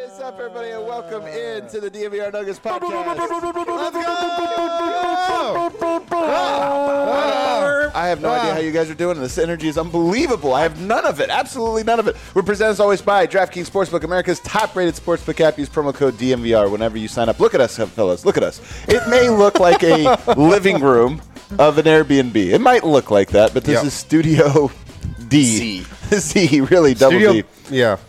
What's up, everybody, and welcome into the DNVR Nuggets podcast. Let's go! I have no idea how you guys are doing. This energy is unbelievable. I have none of it. Absolutely none of it. We're presented as always by DraftKings Sportsbook, America's top-rated sportsbook app. Use promo code DNVR whenever you sign up. Look at us, fellas. Look at us. It may look like a living room of an Airbnb. It might look like that, but this is Studio D. Z, really, double D. Yeah.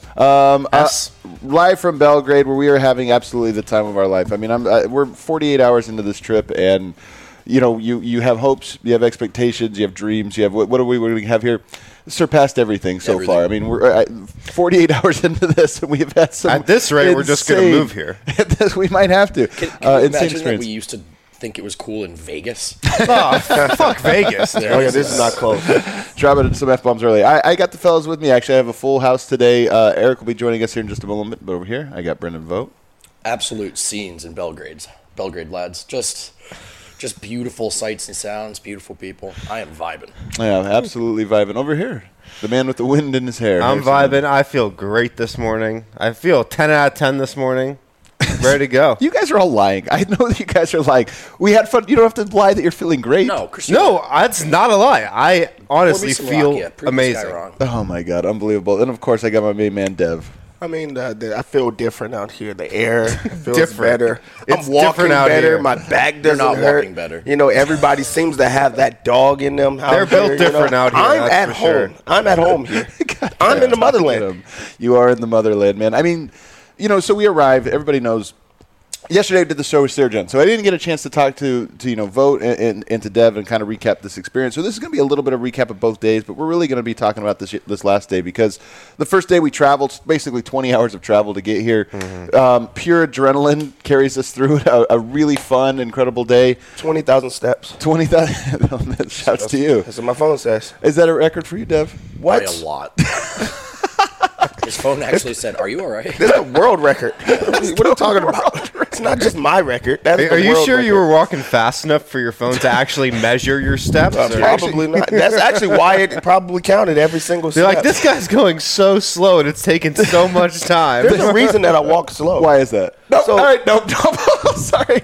Live from Belgrade, where we are having absolutely the time of our life. I mean, we're 48 hours into this trip, and you have hopes, you have expectations, you have dreams, you have what do we have here? Surpassed everything so far. I mean, we're 48 hours into this, and we have had some. At this rate, we're just going to move here. We might have to. Can you imagine that we used to think it was cool in Vegas? Oh, fuck Vegas. This is not close. Dropping some F-bombs early. I got the fellas with me. Actually, I have a full house today. Eric will be joining us here in just a moment. But over here, I got Brendan Vogt. Absolute scenes in Belgrade, lads. Just beautiful sights and sounds, beautiful people. I am vibing. Yeah, absolutely vibing. Over here, the man with the wind in his hair. I'm vibing. I feel great this morning. I feel 10 out of 10 this morning. Ready to go. You guys are all lying. I know that you guys are lying. We had fun. You don't have to lie that you're feeling great. No, that's not a lie. I honestly feel amazing. Oh, my God. Unbelievable. And, of course, I got my main man, Dev. I mean, I feel different out here. The air feels different. better. It's I'm walking different out better. here. My back doesn't not hurt. walking better. Everybody seems to have that dog in them. They're built different out here. I'm at home. Sure. I'm at home here. I'm in the motherland. You are in the motherland, man. I mean, so we arrived. Everybody knows. Yesterday I did the show with Sergen, so I didn't get a chance to talk to Vogt and to Dev and kind of recap this experience. So this is going to be a little bit of recap of both days, but we're really going to be talking about this last day because the first day we traveled, basically 20 hours of travel to get here. Pure adrenaline carries us through a really fun, incredible day. 20,000 steps. 20,000. Shouts to you. That's what my phone says. Is that a record for you, Dev? What? By a lot. His phone actually said, "Are you all right?" This is a world record. What are you talking about? It's not just my record. Are you sure you were walking fast enough for your phone to actually measure your steps? Probably not. That's actually why it probably counted every single step. They're like, this guy's going so slow, and it's taking so much time. There's a reason that I walk slow. Why is that? No, all right, no. Sorry.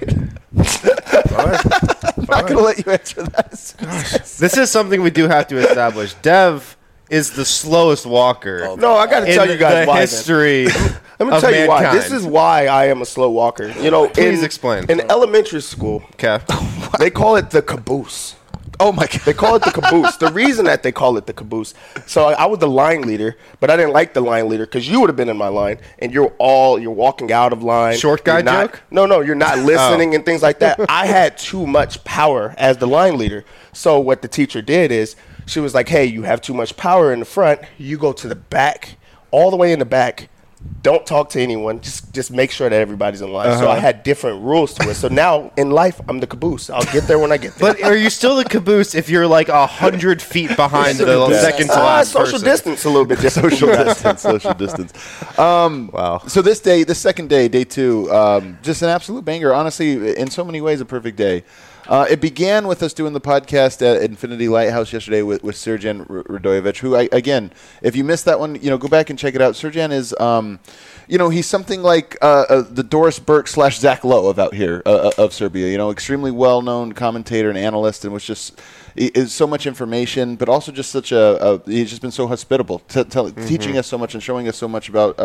I'm not going to let you answer that. This is something we do have to establish. Dev is the slowest walker. No, I got to tell you guys why. History. Let me tell you why. This is why I am a slow walker. Please explain. In elementary school, they call it the caboose. Oh, my God. They call it the caboose. The reason that they call it the caboose, so I was the line leader, but I didn't like the line leader because you would have been in my line, and you're walking out of line. Short guy joke? No, you're not listening and things like that. I had too much power as the line leader. So what the teacher did is she was like, hey, you have too much power in the front. You go to the back, all the way in the back. Don't talk to anyone. Just make sure that everybody's in line. So I had different rules to it. So now in life, I'm the caboose. I'll get there when I get there. But are you still the caboose if you're like 100 feet behind the second to last social distance a little bit different. Social distance. Wow. So this second day, day 2, just an absolute banger. Honestly, in so many ways, a perfect day. It began with us doing the podcast at Infinity Lighthouse yesterday with Sergen Radojevic, who, again, if you missed that one, go back and check it out. Sergen is, he's something like the Doris Burke / Zach Lowe of out here of Serbia. Extremely well-known commentator and analyst, and was just is so much information, but also just such he's just been so hospitable, teaching us so much and showing us so much about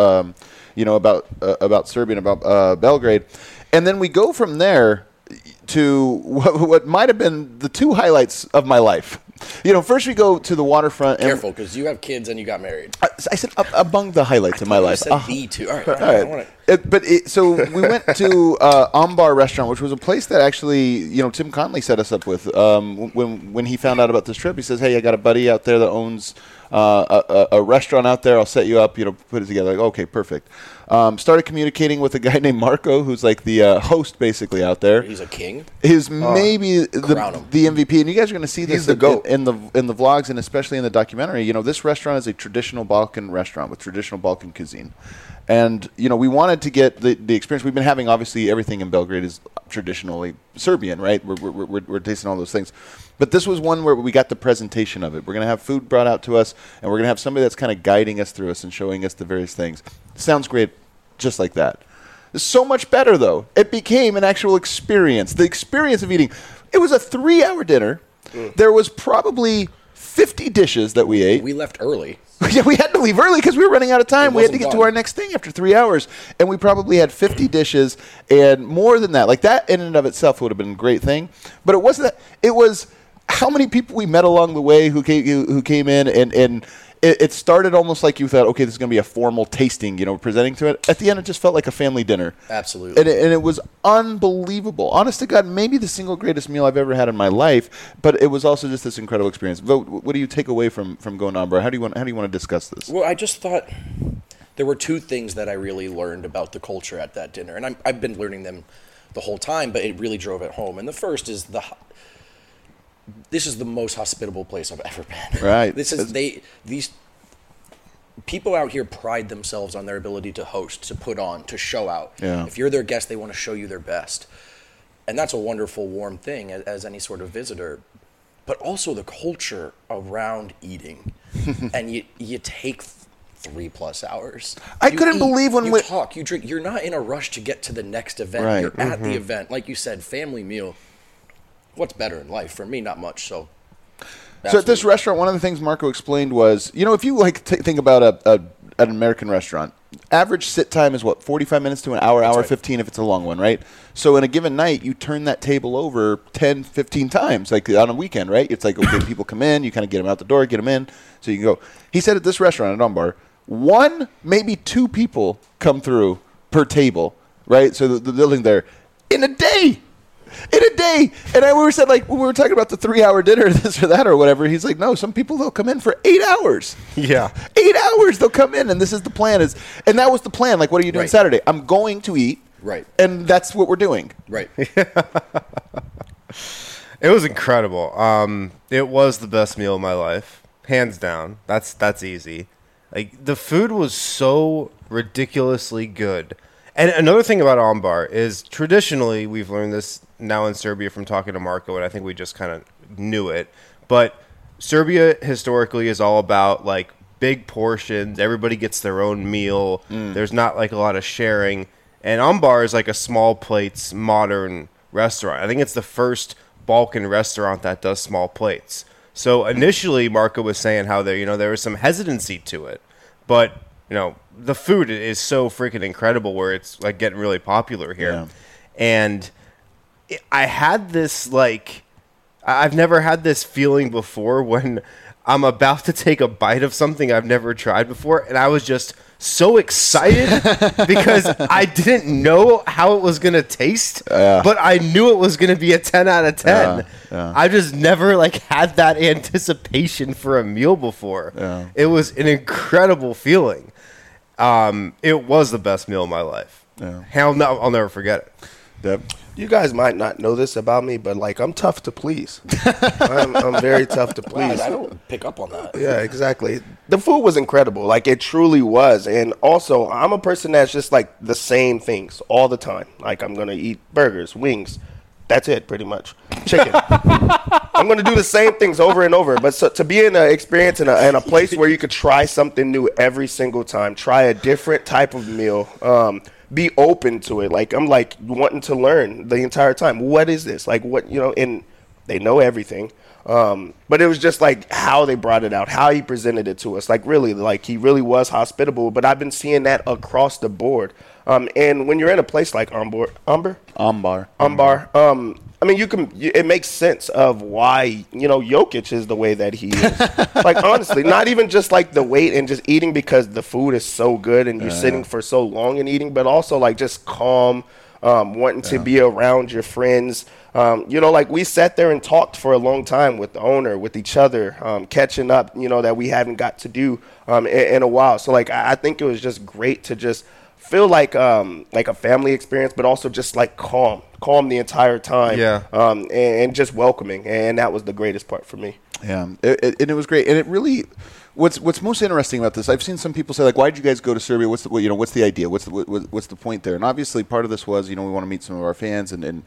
about Serbia and about Belgrade, and then we go from there to what might have been the 2 highlights of my life. First we go to the waterfront. Careful, because you have kids and you got married. I said among the highlights of my life. You said the 2. All right. So we went to Ambar Restaurant, which was a place that actually, Tim Conley set us up with. When he found out about this trip, he says, "Hey, I got a buddy out there that owns a restaurant out there. I'll set you up. Put it together." Like, okay, perfect. Started communicating with a guy named Marco, who's like the host basically out there. He's a king. He's maybe the MVP, and you guys are going to see this in the vlogs and especially in the documentary. This restaurant is a traditional Balkan restaurant with traditional Balkan cuisine, and we wanted to get the experience we've been having. Obviously, everything in Belgrade is traditionally Serbian, right? We're tasting all those things. But this was one where we got the presentation of it. We're going to have food brought out to us, and we're going to have somebody that's kind of guiding us through us and showing us the various things. Sounds great. just like that. So much better, though. It became an actual experience. The experience of eating. It was a 3-hour dinner. There was probably 50 dishes that we ate. We left early. Yeah, we had to leave early because we were running out of time. We had to get to done. our next thing after 3 hours. And we probably had 50 dishes and more than that. Like, that in and of itself would have been a great thing. But it wasn't that. It was how many people we met along the way who came in. And it started almost like you thought, okay, this is going to be a formal tasting, presenting to it. At the end, it just felt like a family dinner. Absolutely. And it was unbelievable. Honest to God, maybe the single greatest meal I've ever had in my life. But it was also just this incredible experience. Vogt, what do you take away from going to Ambar? How do you want to discuss this? Well, I just thought there were two things that I really learned about the culture at that dinner, and I've been learning them the whole time, but it really drove it home. And the first is this is the most hospitable place I've ever been. Right. These people out here pride themselves on their ability to host, to put on, to show out. Yeah. If you're their guest, they want to show you their best. And that's a wonderful, warm thing as any sort of visitor. But also the culture around eating. And you take 3+ hours. I couldn't believe when you talk, you drink. You're not in a rush to get to the next event. Right. You're at the event. Like you said, family meal. What's better in life? For me, not much. So at this restaurant, one of the things Marco explained was, if you think about an American restaurant, average sit time is 45 minutes to an hour, hour 15 if it's a long one, right? So in a given night, you turn that table over 10, 15 times, like on a weekend, right? It's like, okay, people come in, you kind of get them out the door, get them in, so you can go. He said at this restaurant at Ambar, 1, maybe 2 people come through per table, right? So the building there, in a day. And we were said, like, when we were talking about the 3-hour dinner, this or that or whatever, he's like, no, some people, they'll come in for 8 hours. Yeah. 8 hours they'll come in, and this is the plan. And that was the plan. Like, what are you doing Saturday? I'm going to eat. Right. And that's what we're doing. Right. It was incredible. It was the best meal of my life. Hands down. That's easy. Like, the food was so ridiculously good. And another thing about Ambar is traditionally, we've learned this now in Serbia from talking to Marco, and I think we just kind of knew it. But Serbia historically is all about, like, big portions. Everybody gets their own meal. There's not, like, a lot of sharing. And Ambar is like a small plates modern restaurant. I think it's the first Balkan restaurant that does small plates. So initially, Marco was saying how there was some hesitancy to it. But, the food is so freaking incredible where it's like getting really popular here. Yeah. And I had this, like, I've never had this feeling before when I'm about to take a bite of something I've never tried before. And I was just so excited because I didn't know how it was going to taste, but I knew it was going to be a 10 out of 10. I just never, like, had that anticipation for a meal before. It was an incredible feeling. It was the best meal of my life. Hell no, I'll never forget it. Deb? You guys might not know this about me, but, like, I'm tough to please. I'm very tough to please. Wow, I don't pick up on that. Yeah, exactly. The food was incredible. Like, it truly was. And also, I'm a person that's just, like, the same things all the time. Like, I'm going to eat burgers, wings. That's it, pretty much. Chicken. I'm going to do the same things over and over. But to be in an experience in a place where you could try something new every single time, try a different type of meal, be open to it. Like, I'm, like, wanting to learn the entire time. What is this? Like, what, and they know everything. But it was just, like, how they brought it out, how he presented it to us. Like, really, like, he really was hospitable. But I've been seeing that across the board. And when you're in a place like Ambar, I mean, it makes sense of why, Jokic is the way that he is. Like, honestly, not even just, like, the weight and just eating because the food is so good and you're sitting for so long and eating, but also, like, just calm, wanting to be around your friends. Like, we sat there and talked for a long time with the owner, with each other, catching up, that we haven't got to do in a while. So, like, I think it was just great to just feel like a family experience, but also just, like, calm the entire time. Yeah. And just welcoming. And that was the greatest part for me. Yeah. And it was great. And it really, what's most interesting about this, I've seen some people say, like, why did you guys go to Serbia? What's the idea? What's the point there? And obviously, part of this was, we want to meet some of our fans and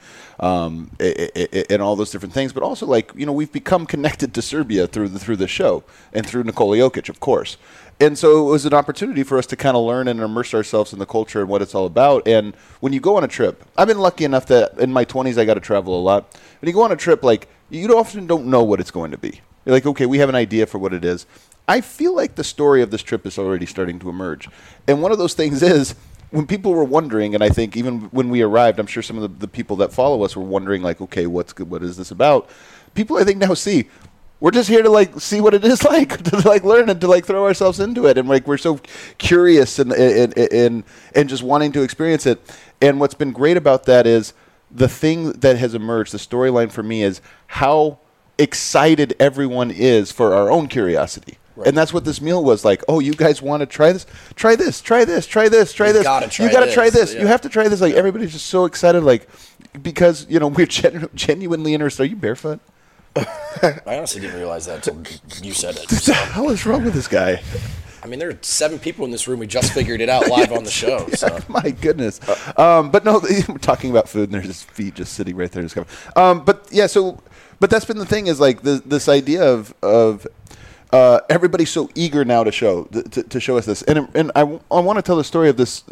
all those different things. But also, like, we've become connected to Serbia through the show and through Nikola Jokic, of course. And so it was an opportunity for us to kind of learn and immerse ourselves in the culture and what it's all about. And when you go on a trip, I've been lucky enough that in my 20s I got to travel a lot. When you go on a trip, like, you often don't know what it's going to be. You're like, okay, we have an idea for what it is. I feel like the story of this trip is already starting to emerge. And one of those things is, when people were wondering, and I think even when we arrived, I'm sure some of the people that follow us were wondering, like, okay, what is this about? People, I think, now see, we're just here to, like, see what it is like, to, like, learn and to, like, throw ourselves into it. And, like, we're so curious and just wanting to experience it. And what's been great about that is the thing that has emerged, the storyline for me, is how excited everyone is for our own curiosity. Right. And that's what this meal was like. Oh, you guys want to try this? Try this, try this, try this, try this. You got to try this. Yeah. You have to try this. Like, everybody's just so excited, like, because, we're genuinely interested. Are you barefoot? I honestly didn't realize that until you said it. What the hell is wrong with this guy? I mean, there are 7 people in this room. We just figured it out live on the show. Yeah, so. My goodness. But no, we're talking about food, and there's his feet just sitting right there. But that's been the thing, is like this idea of everybody's so eager now to show us this. And I want to tell the story of this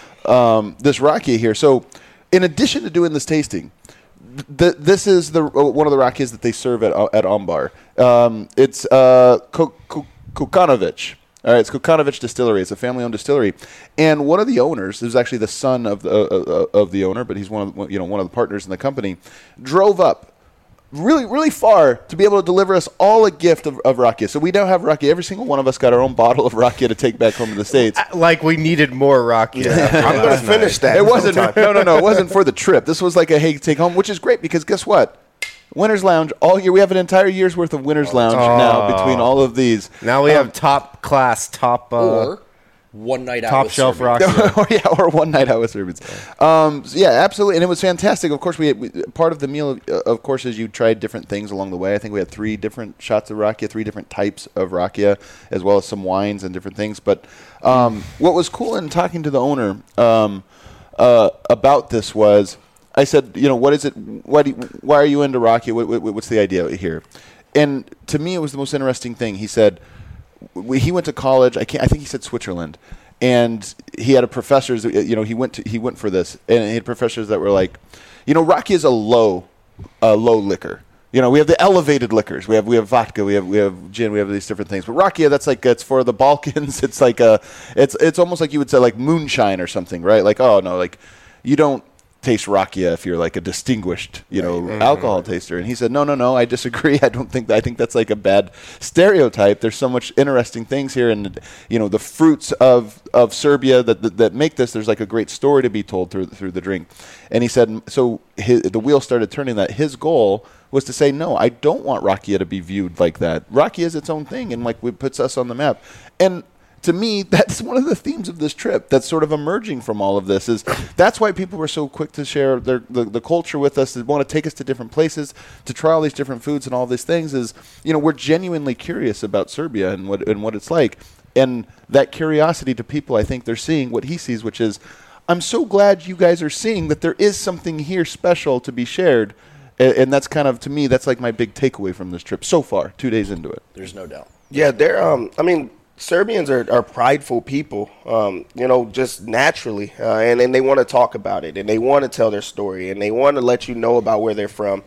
rakia here. So in addition to doing this tasting, this is one of the rakias that they serve at Ambar. It's Kokanovic. All right, it's Kokanovic Distillery. It's a family-owned distillery, and one of the owners, is actually the son of the owner, but he's one of the partners in the company, drove up really, really far to be able to deliver us all a gift of rakia. So we now have rakia. Every single one of us got our own bottle of rakia to take back home to the States. Like we needed more rakia. Yeah. I'm going to finish that. It wasn't. No. It wasn't for the trip. This was like a hey, take home, which is great because guess what? Winners Lounge all year. We have an entire year's worth of Winners Lounge now between all of these. Now we have top class, or one night out top with shelf rakia. or one night out with Serbians. Yeah, absolutely, and it was fantastic. Of course, we part of the meal, of course, is you tried different things along the way. I think we had 3 different shots of rakia, 3 different types of rakia, as well as some wines and different things. But what was cool in talking to the owner about this was, I said, what is it? Why are you into rakia? What's the idea here? And to me, it was the most interesting thing. He said he went to college. I think he said Switzerland, and he had a professors. He went for this, and he had professors that were like, rakia is a low liquor. We have the elevated liquors. We have vodka. We have gin. We have these different things. But rakia, it's for the Balkans. It's like it's almost like you would say like moonshine or something, right? Like, oh no, like you don't taste rakia if you're like a distinguished, alcohol taster. And he said, no, I disagree. I think that's like a bad stereotype. There's so much interesting things here, and the fruits of Serbia that make this. There's like a great story to be told through the drink. And he said, so the wheel started turning. That his goal was to say, no, I don't want rakia to be viewed like that. Rakia is its own thing, and like it puts us on the map. And to me, that's one of the themes of this trip that's sort of emerging from all of this. Is that's why people were so quick to share the culture with us, to want to take us to different places, to try all these different foods and all these things. Is we're genuinely curious about Serbia and what it's like, and that curiosity to people, I think they're seeing what he sees, which is, I'm so glad you guys are seeing that there is something here special to be shared, and that's kind of, to me, that's like my big takeaway from this trip so far, 2 days into it. There's no doubt. Yeah, they're Serbians are prideful people, just naturally, and they want to talk about it, and they want to tell their story, and they want to let you know about where they're from.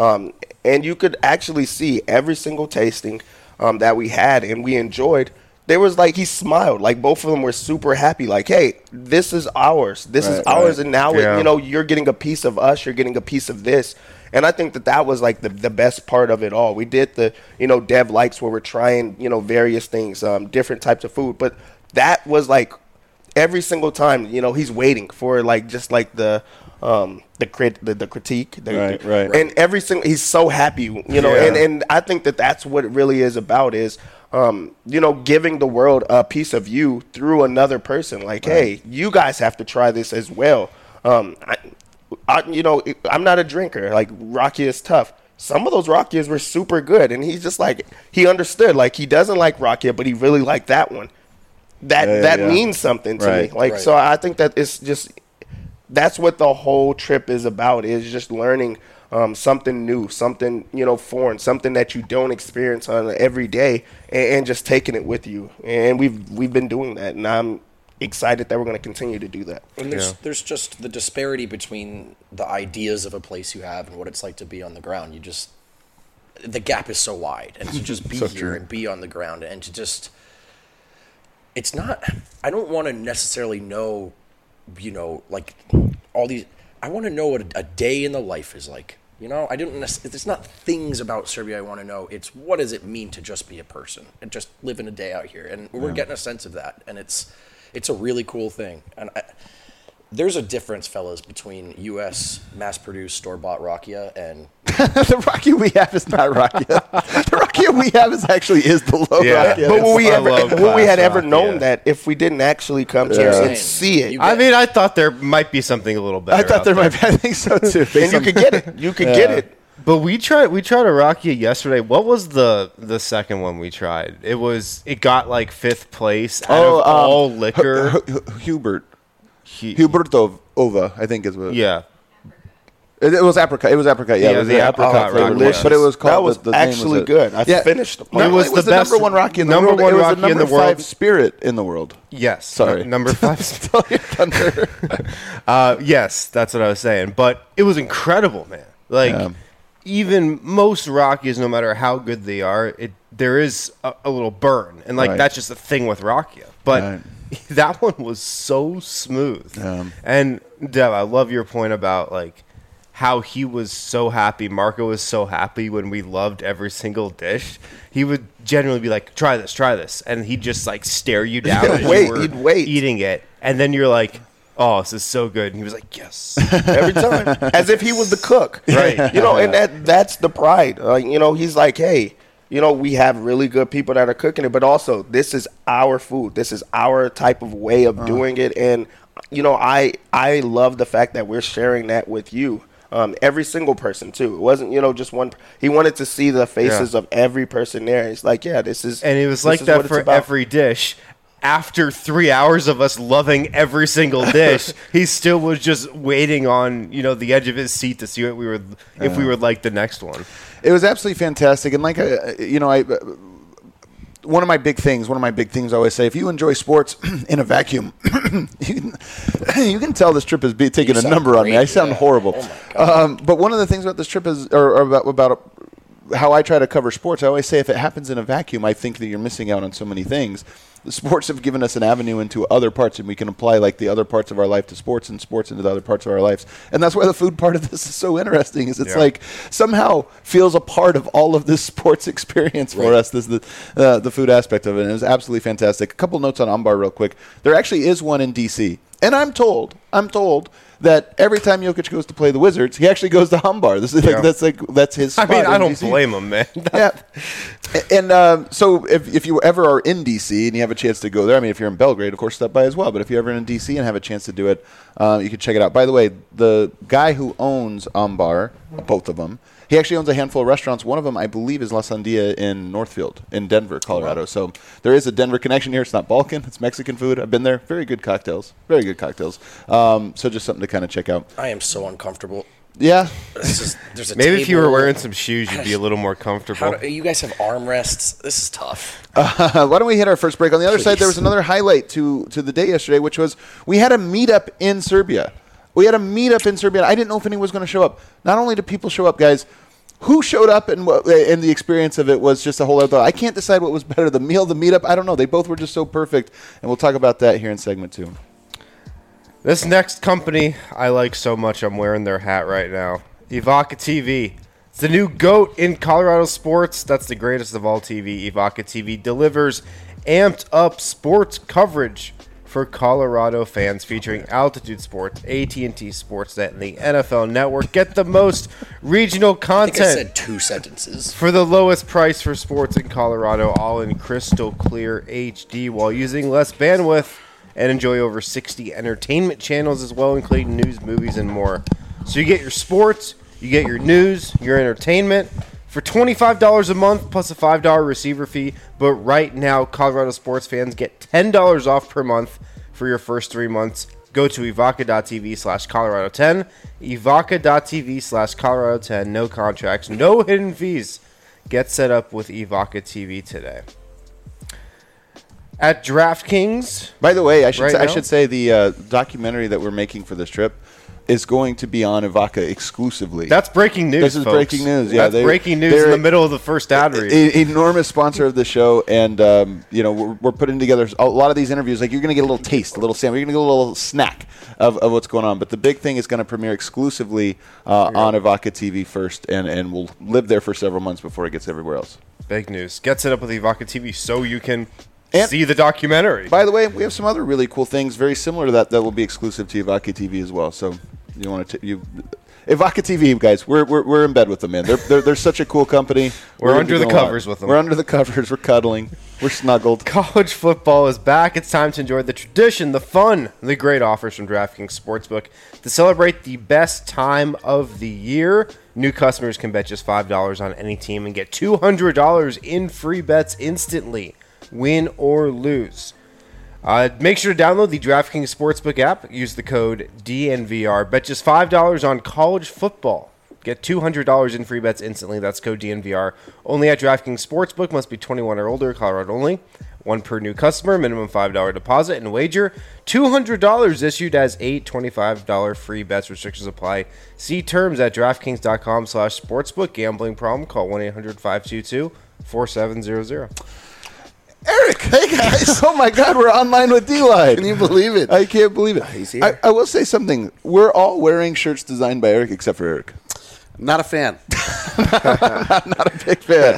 And you could actually see every single tasting that we had and we enjoyed. There was like, he smiled, like both of them were super happy, like, hey, this is ours. This is ours, and now you're getting a piece of us, you're getting a piece of this. And I think that was like the best part of it all. We did the, Dev Likes, where we're trying, various things, different types of food. But that was like every single time, he's waiting for like just like the critique. Right. And every single, he's so happy, and I think that's what it really is about is, giving the world a piece of you through another person. Like, hey, you guys have to try this as well. I'm not a drinker. Like, rakia is tough. some of those Rakias were super good. And he's just like, he understood. Like, he doesn't like Rakia, but he really liked that one. That means something to me. Like, so I think that it's just, that's what the whole trip is about, is just learning something new, something, foreign, something that you don't experience on every day, and just taking it with you. And we've been doing that, and I'm excited that we're going to continue to do that. And there's just the disparity between the ideas of a place you have and what it's like to be on the ground. The gap is so wide, and to just be here and be on the ground, and to just, it's not, I don't want to necessarily know, like all these, I want to know what a day in the life is like. It's not things about Serbia I want to know. It's what does it mean to just be a person and just living a day out here. And we're getting a sense of that. And it's a really cool thing. And there's a difference, fellas, between U.S. mass-produced store-bought Rakia and the Rakia we have is not Rakia. The Rakia we have is the low Rakia. But would we had ever known that if we didn't actually come here and see it? I thought there might be something a little better. I thought there might be. I think so too. And you could get it. You could get it. But we tried a Rakia yesterday. What was the second one we tried? It got like 5th place out of all liquor. Huberto Ova, I think is what. Yeah. It was apricot. It was apricot. Yeah, it was the apricot flavor. But it was called. That was the actually name good. I finished the It was the best, number 1 Rakia in the world. It was the number 5 spirit in the world. Yes. Sorry. Number 5. Stole your thunder. Yes, that's what I was saying. But it was incredible, man. Like, even most Rakias, no matter how good they are, there is a little burn. And, that's just the thing with Rakia. But that one was so smooth. And, Dev, I love your point about, how he was so happy. Marco was so happy when we loved every single dish. He would generally be like, try this. And he'd just, stare you down as you were eating it. And then you're like, oh, this is so good. And he was like, yes. Every time. As if he was the cook. Right. And that's the pride. He's like, hey, we have really good people that are cooking it, but also this is our food. This is our type of way of doing it. And, I love the fact that we're sharing that with you. Every single person, too. It wasn't, just one. He wanted to see the faces of every person there. He's like, this is. And it was like that for every dish. After 3 hours of us loving every single dish, he still was just waiting on, the edge of his seat to see what if we would like the next one. It was absolutely fantastic. And one of my big things I always say, if you enjoy sports in a vacuum, you can tell this trip is taking a number on me. I sound horrible. Oh but one of the things about this trip is, or about how I try to cover sports, I always say if it happens in a vacuum, I think that you're missing out on so many things. The sports have given us an avenue into other parts, and we can apply the other parts of our life to sports and sports into the other parts of our lives. And that's why the food part of this is so interesting, is it's somehow feels a part of all of this sports experience for us, this the food aspect of it. And it was absolutely fantastic. A couple notes on Ambar real quick. There actually is one in D.C., and I'm told that every time Jokic goes to play the Wizards, he actually goes to Ambar. This is that's his spot. I don't blame him, man. And so if you ever are in D.C. and you have a chance to go there, if you're in Belgrade, of course, stop by as well. But if you're ever in D.C. and have a chance to do it, you can check it out. By the way, the guy who owns Ambar, both of them, he actually owns a handful of restaurants. One of them, I believe, is La Sandia in Northfield in Denver, Colorado. Wow. So there is a Denver connection here. It's not Balkan. It's Mexican food. I've been there. Very good cocktails. So just something to kind of check out. I am so uncomfortable. Yeah. Maybe if you were wearing some shoes, you'd be a little more comfortable. You guys have armrests. This is tough. Why don't we hit our first break? On the other side, there was another highlight to the day yesterday, which was we had a meetup in Serbia. I didn't know if anyone was going to show up. Not only did people show up, guys, who showed up and the experience of it was just a whole other. I can't decide what was better, the meal, the meetup. I don't know. They both were just so perfect, and we'll talk about that here in segment 2. This next company I like so much, I'm wearing their hat right now. Evoca TV. It's the new GOAT in Colorado sports. That's the greatest of all TV. Evoca TV delivers amped up sports coverage for Colorado fans, featuring Altitude Sports, AT&T Sportsnet, and the NFL Network. Get the most regional content. I think I said 2 sentences. For the lowest price for sports in Colorado, all in crystal clear HD, while using less bandwidth, and enjoy over 60 entertainment channels as well, including news, movies, and more. So you get your sports, You get your news, your entertainment for $25 a month plus a $5 receiver fee. But right now, Colorado sports fans get $10 off per month for your first 3 months. Go to evoca.tv/Colorado10. Evoca.tv/Colorado10. No contracts, no hidden fees. Get set up with Evoca TV today. At DraftKings. By the way, I should say the documentary that we're making for this trip is going to be on Evoca exclusively. That's breaking news. This is folks. breaking news. Yeah, that's breaking news in the middle of the first ad read. Enormous sponsor of the show, and we're putting together a lot of these interviews. Like, you're going to get a little taste, a little sample, you're going to get a little snack of what's going on. But the big thing is going to premiere exclusively on Evoca TV first, and will live there for several months before it gets everywhere else. Big news. Get set up with Evoca TV so you can see the documentary. By the way, we have some other really cool things very similar to that will be exclusive to Evoca TV as well. So you want to Evoca TV, guys, we're in bed with them, man. They're such a cool company. We're under the covers with them. We're under the covers. We're cuddling. We're snuggled. College football is back. It's time to enjoy the tradition, the fun, the great offers from DraftKings Sportsbook. To celebrate the best time of the year, new customers can bet just $5 on any team and get $200 in free bets instantly, win or lose. Make sure to download the DraftKings Sportsbook app. Use the code DNVR. Bet just $5 on college football. Get $200 in free bets instantly. That's code DNVR. Only at DraftKings Sportsbook. Must be 21 or older. Colorado only. One per new customer. Minimum $5 deposit and wager. $200 issued as 8 $25 free bets. Restrictions apply. See terms at DraftKings.com/sportsbook. Gambling problem? Call 1-800-522-4700. Eric, hey guys! Oh my God, we're online with D-Line. Can you believe it? I can't believe it. He's here. I will say something. We're all wearing shirts designed by Eric, except for Eric. Not a fan. not a big fan.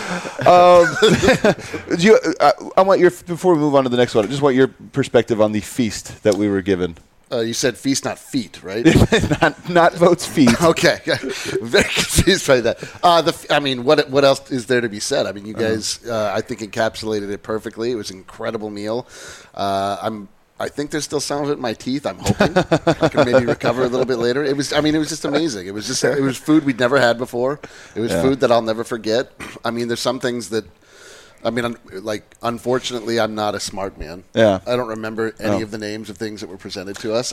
I want your, before we move on to the next one, I just want your perspective on the feast that we were given. You said feast, not feet, right? not votes feet. Okay, very confused by that. What else is there to be said? I mean, you guys, I think, encapsulated it perfectly. It was an incredible meal. I think there's still some of it in my teeth. I'm hoping I can maybe recover a little bit later. It was just amazing. It was food we'd never had before. It was food that I'll never forget. I mean, there's some things that. Unfortunately, I'm not a smart man. Yeah. I don't remember any of the names of things that were presented to us.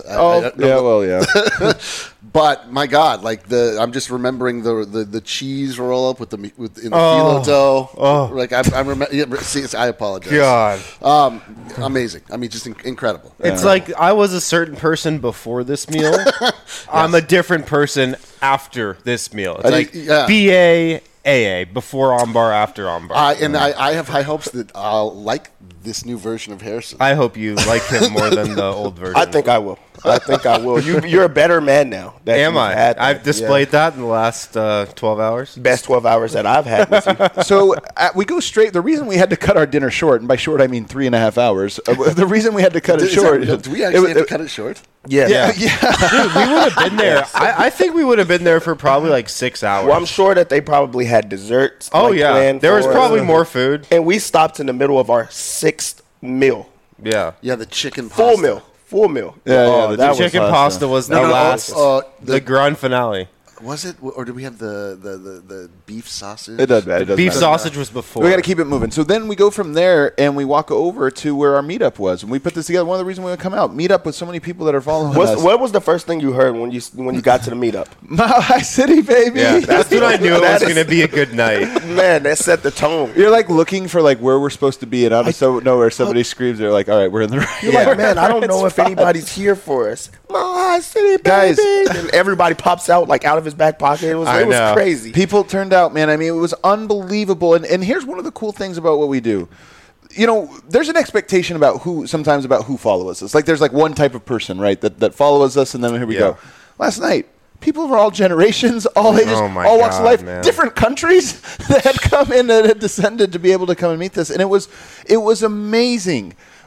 But my God, I'm just remembering the cheese roll up in the phyllo dough. Oh. I remember. I apologize. God. Amazing. I mean, just incredible. It's like I was a certain person before this meal. Yes. I'm a different person after this meal. It's BA. AA, before armbar, after armbar. I have high hopes that I'll like this new version of Harrison. I hope you like him more than the old version. I think I will. You're a better man now. Am I? I've displayed that in the last 12 hours. Best 12 hours that I've had with you. So we go straight. The reason we had to cut our dinner short, and by short I mean 3.5 hours. The reason we had to cut it short. Do we actually have to cut it short? Yeah. Dude, we would have been there. I think we would have been there for probably 6 hours. Well, I'm sure that they probably had desserts. Oh, yeah. There was probably more food. And we stopped in the middle of our 6th meal. Yeah. Yeah, the chicken pasta. Full meal. Yeah, the chicken pasta was the last, the grand finale. Was it, or did we have the beef sausage? It doesn't matter. Beef sausage was before. We got to keep it moving. So then we go from there and we walk over to where our meetup was, and we put this together. One of the reasons we would come out, meet up with so many people that are following us. What was the first thing you heard when you got to the meetup? Mile High City, baby. Yeah, that's when I knew it was going to be a good night. Man, that set the tone. You're looking for where we're supposed to be, and out of nowhere somebody screams. They're like, "All right, we're in the right." You're like, man, I don't know if anybody's here for us. Mile High City, baby. Guys, and everybody pops out out of his back pocket. It was crazy. People turned out, man. I mean, it was unbelievable. And here's one of the cool things about what we do. There's an expectation about who follows us. There's one type of person, right, that follows us, and then here we go. Last night, people of all generations, all ages, all walks of life, different countries that had come in and had descended to be able to come and meet this. And it was amazing.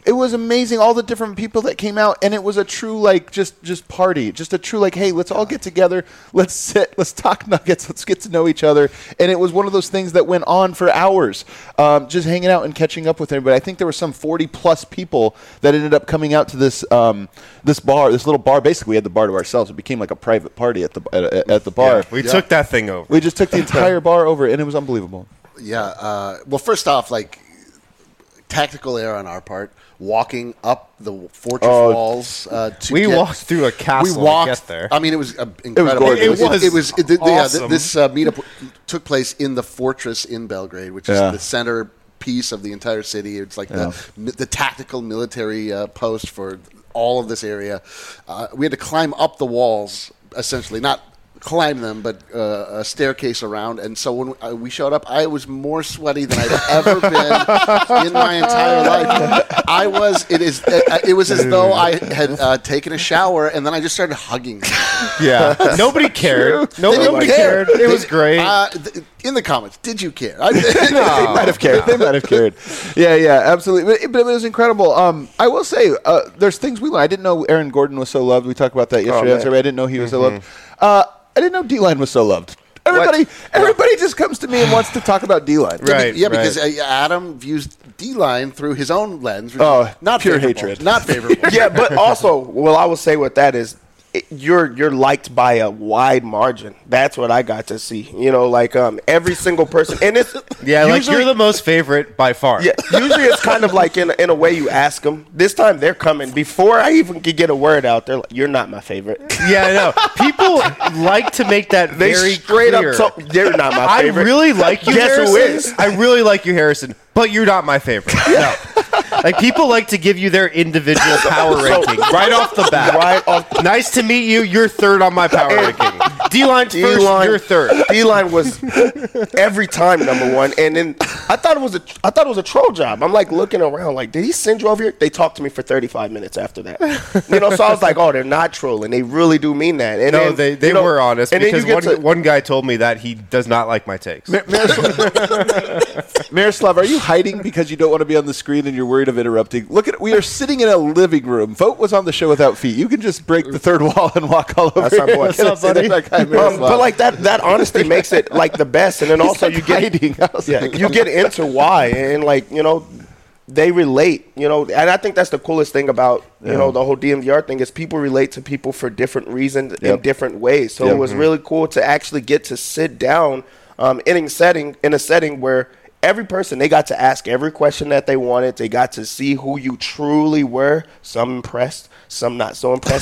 It was amazing, all the different people that came out, and it was a true, like, just party. Just a true, like, hey, let's all get together, let's sit, let's talk Nuggets, let's get to know each other. And it was one of those things that went on for hours, just hanging out and catching up with everybody. I think there were some 40-plus people that ended up coming out to this this little bar. Basically, we had the bar to ourselves. It became like a private party at the bar. Yeah, we took that thing over. We just took the entire bar over, and it was unbelievable. Yeah. Well, first off, like, tactical error on our part. Walking up the fortress walls to walked through a castle to get there. I mean, it was incredible. It was awesome. This meetup took place in the fortress in Belgrade, which is the center piece of the entire city. It's like the tactical military post for all of this area. We had to climb up the walls, essentially, not climb them, but a staircase around. And so when we showed up, I was more sweaty than I've ever been in my entire life. It was as though I had taken a shower, and then I just started hugging them. Yeah. Nobody cared. Nobody cared. It was great. In the comments, did you care? They might have cared. They might have cared. Yeah, absolutely. But it was incredible. I will say, there's things we learned. I didn't know Aaron Gordon was so loved. We talked about that yesterday. I didn't know he was so loved. I didn't know D-Line was so loved. Everybody just comes to me and wants to talk about D-Line. Right. Yeah, because Adam views D-Line through his own lens. Not pure hatred. Not favorable. Yeah, but also, I will say with that is, you're liked by a wide margin. That's what I got to see. Like every single person, and it's like you're the most favorite by far. Yeah, usually it's kind of like in a way you ask them. This time they're coming before I even could get a word out. They're like, "You're not my favorite." Yeah, I know. People like to make that very straight clear. up. They're not my favorite. I really like you, Guess Harrison. who is? I really like you, Harrison. But you're not my favorite. No. Like, people like to give you their individual power ranking right off the bat. Nice to meet you. You're third on my power ranking. D-Line's first, you're third. D-Line was every time number one. And then I thought it was a troll job. I'm like looking around like, did he send you over here? They talked to me for 35 minutes after that. So I was like, oh, they're not trolling. They really do mean that. And no, then, they were honest, and because one guy told me that he does not like my takes. Miroslav, are you hiding because you don't want to be on the screen and you're worried of interrupting? We are sitting in a living room. Vogt was on the show without feet. You can just break the third wall and walk all over. That's our boy. What's up, buddy? But like that honesty makes it like the best. And then also you get you get into why, and they relate, and I think that's the coolest thing about, the whole DMVR thing is people relate to people for different reasons in different ways. So it was really cool to actually get to sit down in a setting where every person, they got to ask every question that they wanted. They got to see who you truly were. Some impressed, some not so impressed.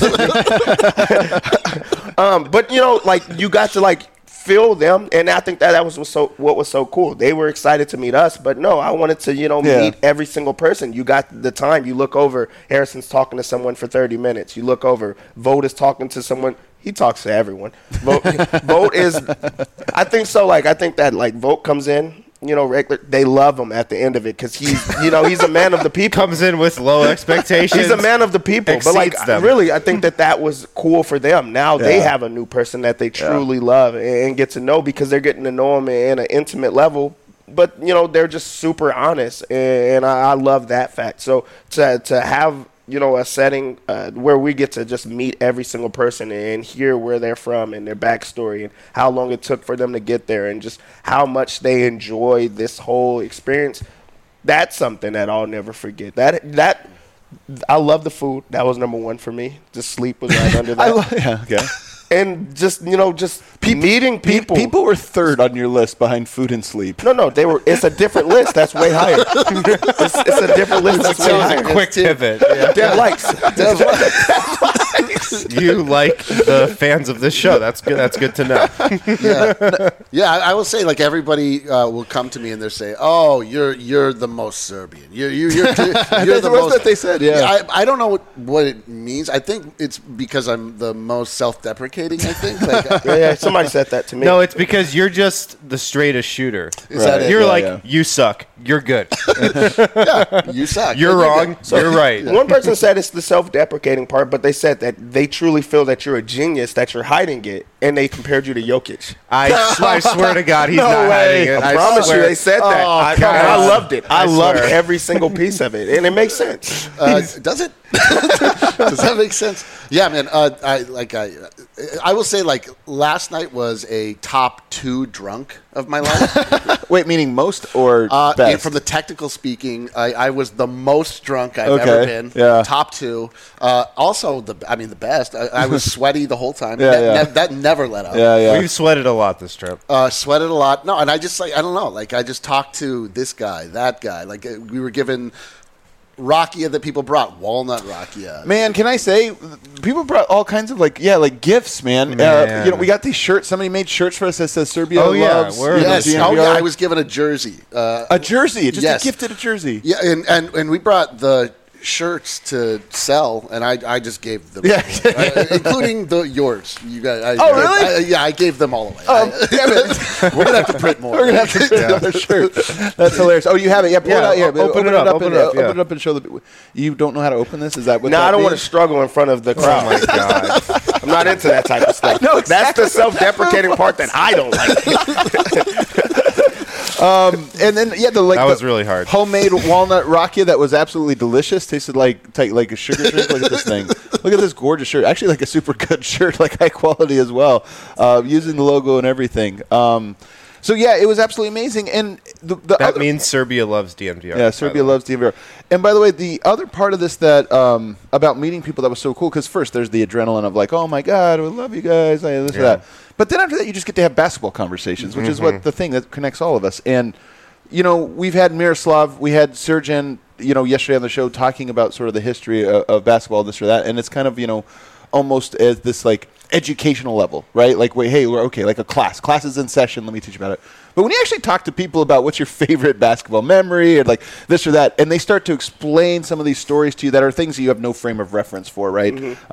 But, you got to, feel them, and I think that was what was so cool. They were excited to meet us, but no, I wanted to, meet every single person. You got the time. You look over, Harrison's talking to someone for 30 minutes. You look over, Vogt is talking to someone. He talks to everyone. Vogt is, I think so. I think that Vogt comes in, regular. They love him at the end of it because he's a man of the people. Comes in with low expectations. He's a man of the people. But really, I think that was cool for them. Now they have a new person that they truly love and get to know, because they're getting to know him in an intimate level. But they're just super honest, and I love that fact. So to have a setting where we get to just meet every single person and hear where they're from and their backstory and how long it took for them to get there and just how much they enjoy this whole experience, that's something that I'll never forget. That I love the food. That was number one for me. Just sleep was right under that. Okay. And just meeting people. People were third on your list behind food and sleep. No, they were. It's a different list. That's way higher. It's a different list. That's way higher. Quick pivot. Dev likes. You like the fans of this show. That's good. That's good to know. Yeah. I will say, everybody will come to me and they'll say, "Oh, you're the most Serbian. You're the most." That they said. Yeah. I don't know what it means. I think it's because I'm the most self-deprecating. I think. Somebody said that to me. No, it's because you're just the straightest shooter. Is that it? You're you suck. you're good. You suck. You're wrong. You're right. One person said it's the self-deprecating part, but they said that they truly feel that you're a genius, that you're hiding it, and they compared you to Jokic. I swear to God, he's No not way. hiding it. I promise you, swear. they said that. Oh, And I loved it. I loved swear. every single piece of it, and it makes sense. Does it? Does that make sense? Yeah, man. I will say, like, last night was a top 2 drunk of my life. Wait, meaning most or best? From the technical speaking, I was the most drunk I've Okay, ever been. yeah. Top 2. Also, the best. I was sweaty the whole time. Yeah, That never let up. yeah. We've sweated a lot this trip. Sweated a lot. No, and I just, like, I don't know. Like, I just talked to this guy, that guy. Like, we were given rakia that people brought, walnut rakia. Man, can I say, people brought all kinds of like gifts, man. Man. We got these shirts. Somebody made shirts for us that says Serbia Oh, yeah, loves. word. Yes. DNVR. Oh, yeah. I was given a jersey. A jersey, just Yes. a gifted jersey. Yeah, and we brought the shirts to sell, and I just gave them, including yours. You guys. Really? I gave them all away. Damn it. We're gonna have to print more. We're gonna have to print another shirt. That's hilarious. Oh, you have it? Yeah, pull it out here. open it up, open it up, yeah. Open it up and show the. You don't know how to open this? Is that what? No, that I don't want to means? struggle in front of the Oh crowd. my God. I'm not into that type of stuff. know That's exactly the self-deprecating part that I don't like. And then That was really hard. Homemade walnut rakia that was absolutely delicious. Tasted like a sugar drink. Look at this thing. Look at this gorgeous shirt. Actually, like a super good shirt, like high quality as well. Using the logo and everything. So yeah, it was absolutely amazing. And the That means Serbia loves DNVR. Yeah, Serbia loves DNVR. And by the way, the other part of this that about meeting people that was so cool, because first there's the adrenaline of like, oh my God, we love you guys, this or that. But then after that, you just get to have basketball conversations, which is what the thing that connects all of us. And we've had Miroslav, we had Sergen, yesterday on the show talking about sort of the history of basketball, this or that, and it's kind of almost as this like educational level, right? Like, wait, hey, we're okay, like a class is in session, let me teach you about it. But when you actually talk to people about what's your favorite basketball memory or like this or that, and they start to explain some of these stories to you that are things that you have no frame of reference for, right?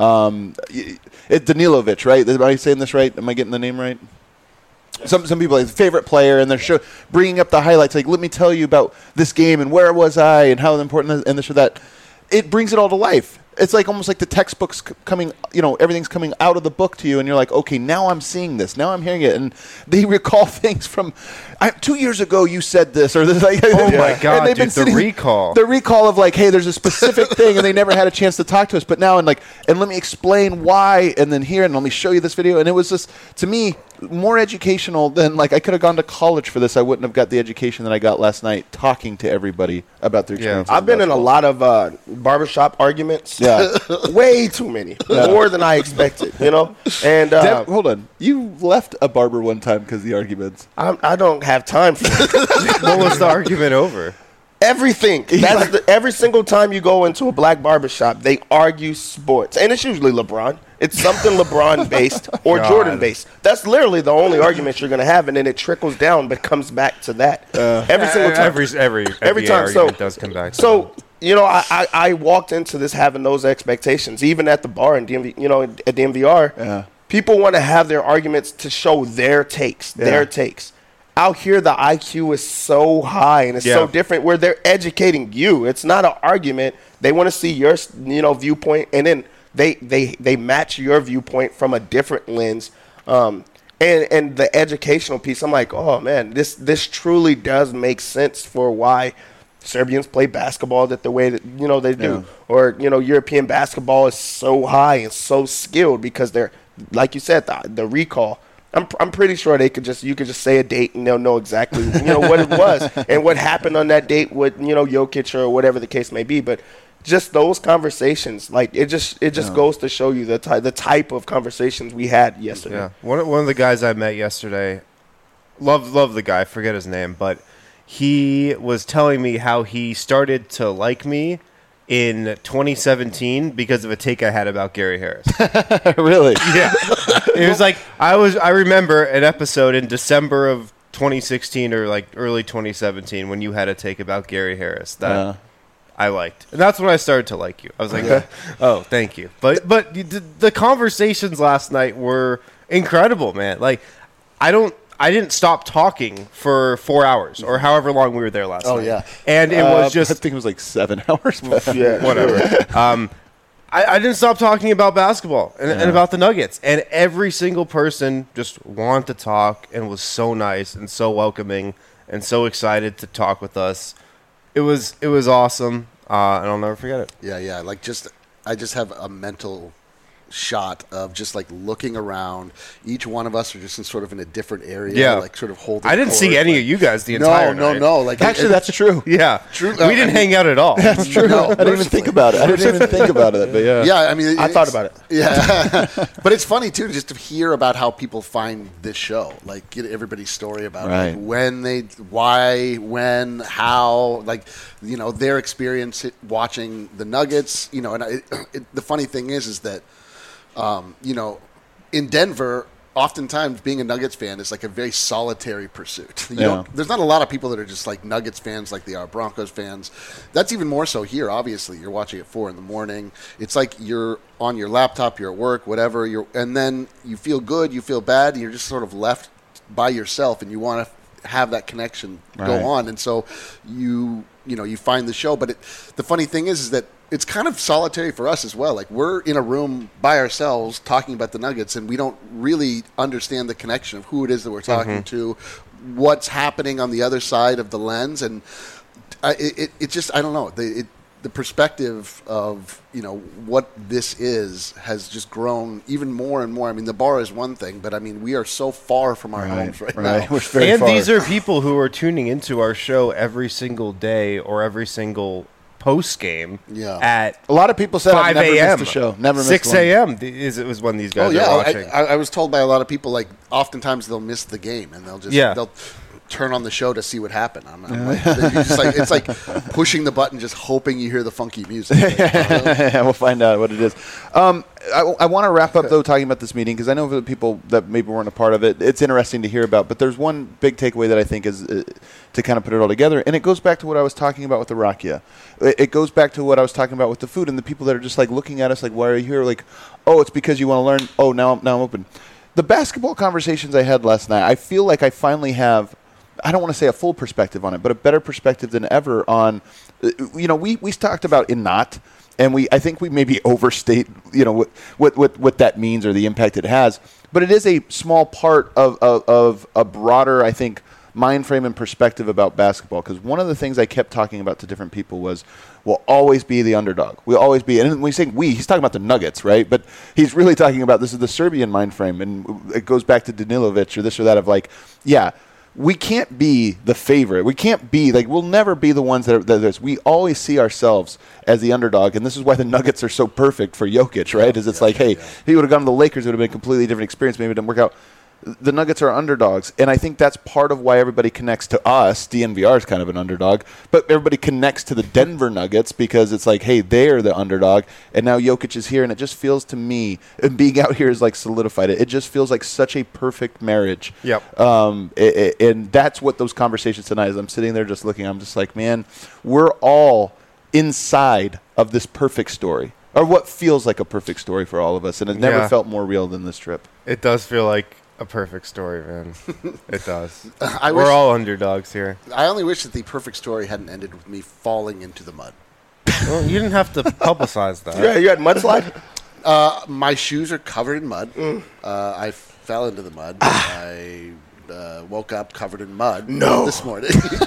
It's Danilovic, right? Am I saying this right? Am I getting the name right? Some people like favorite player, and they're bringing up the highlights. Like, let me tell you about this game and where was I and how important and this or that. It brings it all to life. It's like almost like the textbook's coming, everything's coming out of the book to you, and you're like, okay, now I'm seeing this, now I'm hearing it, and they recall things from 2 years ago. You said this or this, like, Oh my God, and they've been dude, the recall. The recall of like, hey, there's a specific thing, and they never had a chance to talk to us, but now and let me explain why, and then here, and let me show you this video, and it was just to me more educational than like I could have gone to college for this. I wouldn't have got the education that I got last night talking to everybody about their experience. I've been in a lot of barbershop arguments. Yeah. Way too many. More than I expected, And Hold on. You left a barber one time because of the arguments. I don't have time for it. What was the argument over? Everything. Every single time you go into a black barbershop, they argue sports. And it's usually LeBron. It's something LeBron-based or God. Jordan-based. That's literally the only argument you're going to have, and then it trickles down but comes back to that. Every single time. Every time. argument does come back to So, I walked into this having those expectations, even at the bar in DMV, at DMVR. Yeah. People want to have their arguments to show their takes, Out here, the IQ is so high and it's so different where they're educating you. It's not an argument. They want to see your, viewpoint, and then they match your viewpoint from a different lens. And the educational piece, I'm like, oh man, this truly does make sense for why Serbians play basketball the way that they do, or European basketball is so high and so skilled because they're, like you said, the recall. I'm pretty sure you could just say a date and they'll know exactly what it was and what happened on that date with Jokic or whatever the case may be. But just those conversations, like it just goes to show you the type of conversations we had yesterday. Yeah, one of the guys I met yesterday, love the guy, forget his name, but he was telling me how he started to like me in 2017 because of a take I had about Gary Harris. Really? Yeah. It was like I remember an episode in December of 2016 or like early 2017 when you had a take about Gary Harris that I liked. And that's when I started to like you. I was like, oh, thank you. But the conversations last night were incredible, man. Like I I didn't stop talking for 4 hours or however long we were there last night. Oh, yeah. And it was just... I think it was like 7 hours. Yeah, whatever. I didn't stop talking about basketball and about the Nuggets. And every single person just wanted to talk and was so nice and so welcoming and so excited to talk with us. It was awesome, and I'll never forget it. Yeah. Like I just have a mental shot of just like looking around. Each one of us are just in a different area, like sort of holding. I didn't see any of you guys the entire night. No. Like actually, that's true. Yeah, true. We didn't hang out at all. That's true. I didn't even think about it. But yeah. Yeah, I mean, I thought about it. Yeah, but it's funny too, just to hear about how people find this show. Like, get everybody's story about like, why, when, how, like, their experience watching the Nuggets. And the funny thing is that. In Denver, oftentimes being a Nuggets fan is like a very solitary pursuit. There's not a lot of people that are just like Nuggets fans like they are Broncos fans. That's even more so here, obviously. You're watching at 4 a.m. It's like you're on your laptop, you're at work, whatever, and then you feel good, you feel bad, and you're just sort of left by yourself, and you want to have that connection go on. And so you find the show. But the funny thing is that it's kind of solitary for us as well. Like, we're in a room by ourselves talking about the Nuggets, and we don't really understand the connection of who it is that we're talking to, what's happening on the other side of the lens. And it just, I don't know. The perspective of, what this is has just grown even more and more. I mean, the bar is one thing, but I mean, we are so far from our homes right now. We're very and far. These are people who are tuning into our show every single day or every single post game at a lot of people said 5 I've never a.m. missed a show. Never missed 6 a.m. was when these guys are watching. I was told by a lot of people, like, oftentimes they'll miss the game and they'll just they'll turn on the show to see what happened. I'm like, it's like pushing the button, just hoping you hear the funky music. We'll find out what it is. I want to wrap up, though, talking about this meeting, because I know for the people that maybe weren't a part of it, it's interesting to hear about. But there's one big takeaway that I think is to kind of put it all together, and it goes back to what I was talking about with the Rakia. It goes back to what I was talking about with the food and the people that are just like looking at us like, why are you here? Like, oh, it's because you want to learn. Oh, now I'm open. The basketball conversations I had last night, I feel like I finally have, I don't want to say a full perspective on it, but a better perspective than ever on, we talked about Inat, and I think we maybe overstate, what that means or the impact it has. But it is a small part of a broader, I think, mind frame and perspective about basketball. Because one of the things I kept talking about to different people was, we'll always be the underdog. We'll always be, and when we say he's talking about the Nuggets, right? But he's really talking about, this is the Serbian mind frame, and it goes back to Danilovic or this or that of like, we can't be the favorite. We can't be, like, we'll never be the ones that are, we always see ourselves as the underdog, and this is why the Nuggets are so perfect for Jokic, right? If he would have gone to the Lakers, it would have been a completely different experience. Maybe it didn't work out. The Nuggets are underdogs, and I think that's part of why everybody connects to us. DNVR is kind of an underdog, but everybody connects to the Denver Nuggets because it's like, hey, they're the underdog, and now Jokic is here, and it just feels to me, and being out here is like solidified it. It just feels like such a perfect marriage. Yep. And that's what those conversations tonight is. I'm sitting there just looking. I'm just like, man, we're all inside of this perfect story, or what feels like a perfect story for all of us, and it never felt more real than this trip. It does feel like a perfect story, man. It does. We're all underdogs here. I only wish that the perfect story hadn't ended with me falling into the mud. Well, you didn't have to publicize that. Yeah, you had mudslide? My shoes are covered in mud. I fell into the mud. I woke up covered in mud this morning.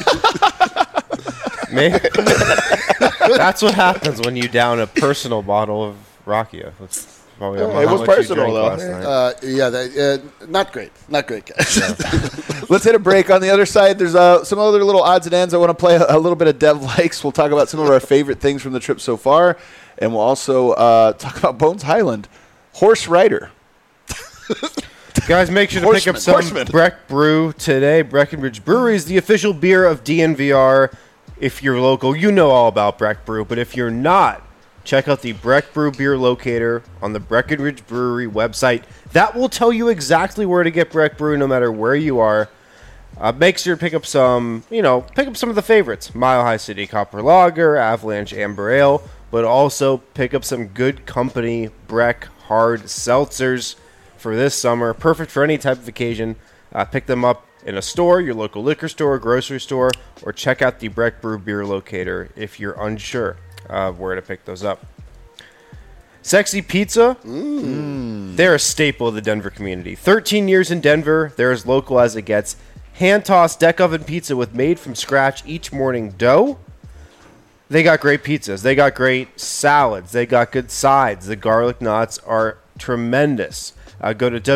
That's what happens when you down a personal bottle of Rakia. It was personal, though. Not great. Not great, guys. Let's hit a break. On the other side, there's some other little odds and ends. I want to play a little bit of Dev Likes. We'll talk about some of our favorite things from the trip so far, and we'll also talk about Bones Highland. Horse Rider. Guys, make sure to pick up some Breck Brew today. Breckenridge Brewery is the official beer of DNVR. If you're local, you know all about Breck Brew, but if you're not, check out the Breck Brew Beer Locator on the Breckenridge Brewery website. That will tell you exactly where to get Breck Brew no matter where you are. Make sure to pick up some of the favorites. Mile High City Copper Lager, Avalanche Amber Ale, but also pick up some Good Company Breck Hard Seltzers for this summer. Perfect for any type of occasion. Pick them up in a store, your local liquor store, grocery store, or check out the Breck Brew Beer Locator if you're unsure of where to pick those up. Sexy Pizza, they're a staple of the Denver community. 13 years in Denver, they're as local as it gets. Hand-tossed deck oven pizza with made-from-scratch each morning dough. They got great pizzas. They got great salads. They got good sides. The garlic knots are tremendous. Go to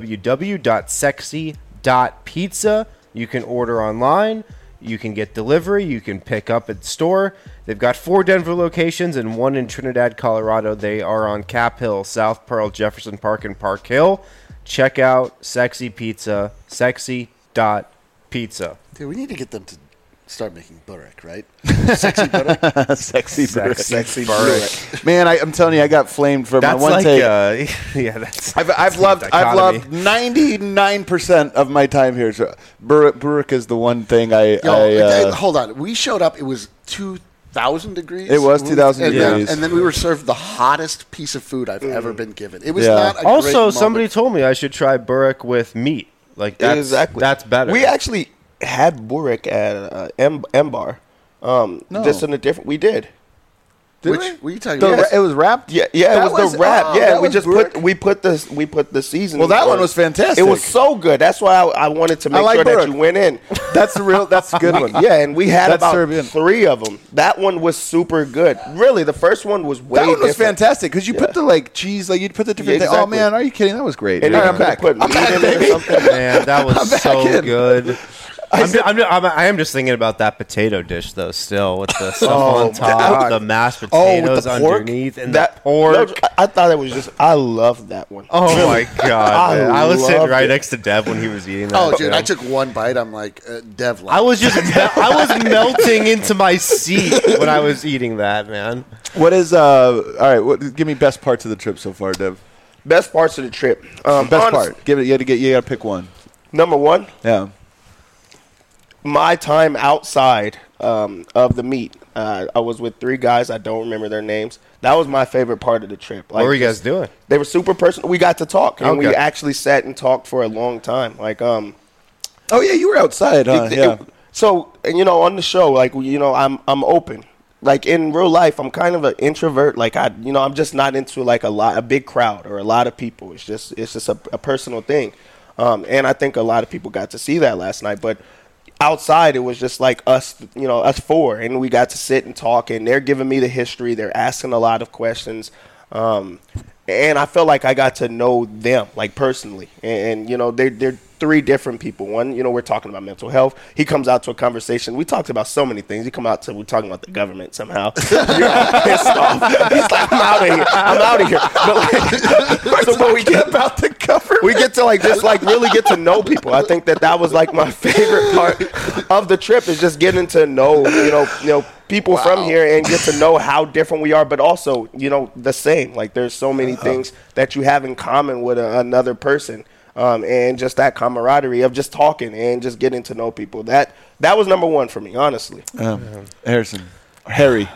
www.sexy.pizza. You can order online. You can get delivery. You can pick up at the store. They've got 4 Denver locations and 1 in Trinidad, Colorado. They are on Cap Hill, South Pearl, Jefferson Park, and Park Hill. Check out Sexy Pizza, sexy.pizza. Dude, we need to get them to start making burek, right? Sexy burek? Sexy burek. Sexy burek. Man, I'm telling you, I got flamed for That's my one like, take. that's. I've loved 99% of my time here. So burek is the one thing hold on. We showed up. It was 2,000 degrees. It was 2,000 degrees. And then we were served the hottest piece of food I've ever been given. It was not a great Also, moment. somebody told me I should try burek with meat. Like that's better. We actually had burek at M-Bar. Just in a different. We did. What are you talking about? It was wrapped. Yeah, it was the wrap. We put the seasoning. Well, that one was fantastic. It was so good. That's why I wanted to make sure that you went in. That's a good one. Yeah, and we had about Serbian. 3 of them. That one was super good. Really, the first one was way. That one was different. fantastic because you put the cheese, you'd put the different thing. Oh exactly. man, are you kidding? That was great. And All right, I'm back. Put meat in it or something. Man, that was so in. good. I am just thinking about that potato dish though. Still with the stuff on top, the mashed potatoes underneath, and the pork. No, I thought it was just. I loved that one. Oh my god! I was sitting right it. next to Dev when he was eating that. Oh, dude, too. I took one bite. I'm like, Dev. I was melting into my seat when I was eating that, man. What is all right? Give me best parts of the trip so far, Dev. Best parts of the trip. Best part. Give it. You got to pick one. Number 1. Yeah. My time outside of the meet. I was with 3 guys. I don't remember their names. That was my favorite part of the trip. What were you guys doing? They were super personal. We got to talk, and Okay. we actually sat and talked for a long time. Oh yeah, you were outside, huh? Yeah. So, and on the show, I'm open. Like in real life, I'm kind of an introvert. I'm just not into a big crowd or a lot of people. It's just a personal thing. And I think a lot of people got to see that last night, but outside, it was just like us 4, and we got to sit and talk, and they're giving me the history. They're asking a lot of questions, and I felt like I got to know them, personally. And they're 3 different people. One, we're talking about mental health. He comes out to a conversation. We talked about so many things. We're talking about the government somehow. You're all pissed off. He's like, I'm out of here. But we get about the government. We get to really get to know people. I think that was my favorite part of the trip is just getting to know people from here and get to know how different we are, but also the same. There's so many things that you have in common with another person. And just that camaraderie of just talking and just getting to know people. That was number 1 for me, honestly. Harry.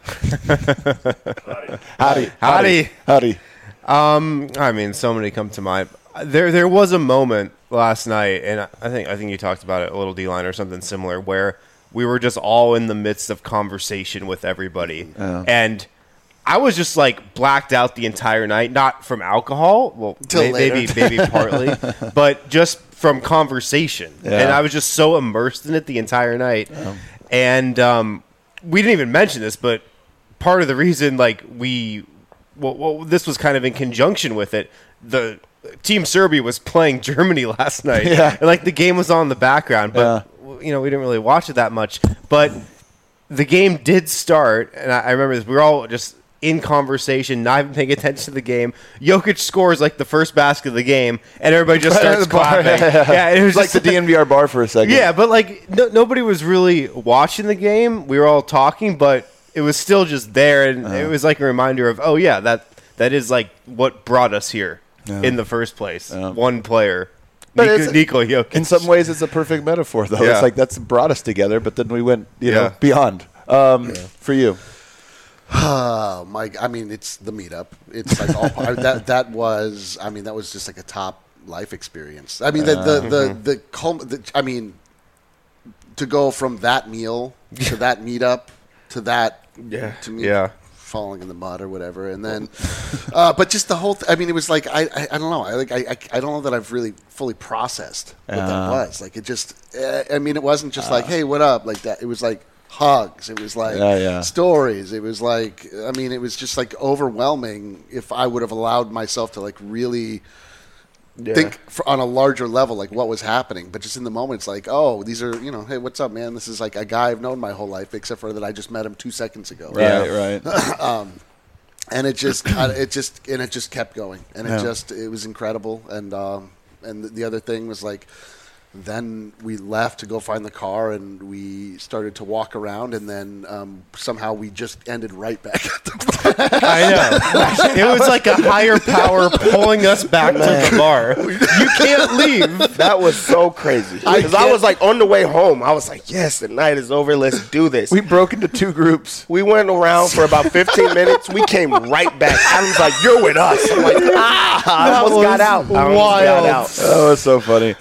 Howdy. I mean, so many come to mind. There was a moment last night, and I think you talked about it a little, D-Line, or something similar, where we were just all in the midst of conversation with everybody, and I was just blacked out the entire night, not from alcohol, well, maybe partly, but just from conversation. Yeah. And I was just so immersed in it the entire night. Yeah. And we didn't even mention this, but part of the reason this was kind of in conjunction with it. The Team Serbia was playing Germany last night, and the game was on in the background, but we didn't really watch it that much. But the game did start, and I remember this. We were all just in conversation, not even paying attention to the game. Jokic scores the first basket of the game, and everybody just starts clapping. Yeah, it was like the DNVR bar for a second. Yeah, but nobody was really watching the game. We were all talking, but it was still just there, and it was a reminder of, oh yeah, that is what brought us here in the first place. One player. Nico Jokic. In some ways, it's a perfect metaphor, though. Yeah. It's that's brought us together, but then we went, beyond. For you. I mean, it's the meetup. It's that was just a top life experience. I mean, I mean, to go from that meal to that meetup to that to me falling in the mud or whatever, and then but just the whole I mean, it was like I don't know, I don't know that I've really fully processed what that was. Like, it just I mean, it wasn't just like, hey, what up, like that. It was like hugs, it was like stories, it was like, I mean, it was just like overwhelming if I would have allowed myself to like really think on a larger level, like what was happening. But just in the moment, it's like, oh, these are, you know, hey, what's up, man? This is like a guy I've known my whole life, except for that I just met him 2 seconds ago. Right. And it just kept going, and it was incredible. And the other thing was like, then we left to go find the car, and we started to walk around, and then somehow we just ended right back at the bar. I know. It was like a higher power pulling us back to the bar. You can't leave. That was so crazy. Because I was like, on the way home, I was like, yes, the night is over. Let's do this. We broke into 2 groups. We went around for about 15 minutes. We came right back. Adam's like, you're with us. I'm like, I almost got out. Wild. That was so funny.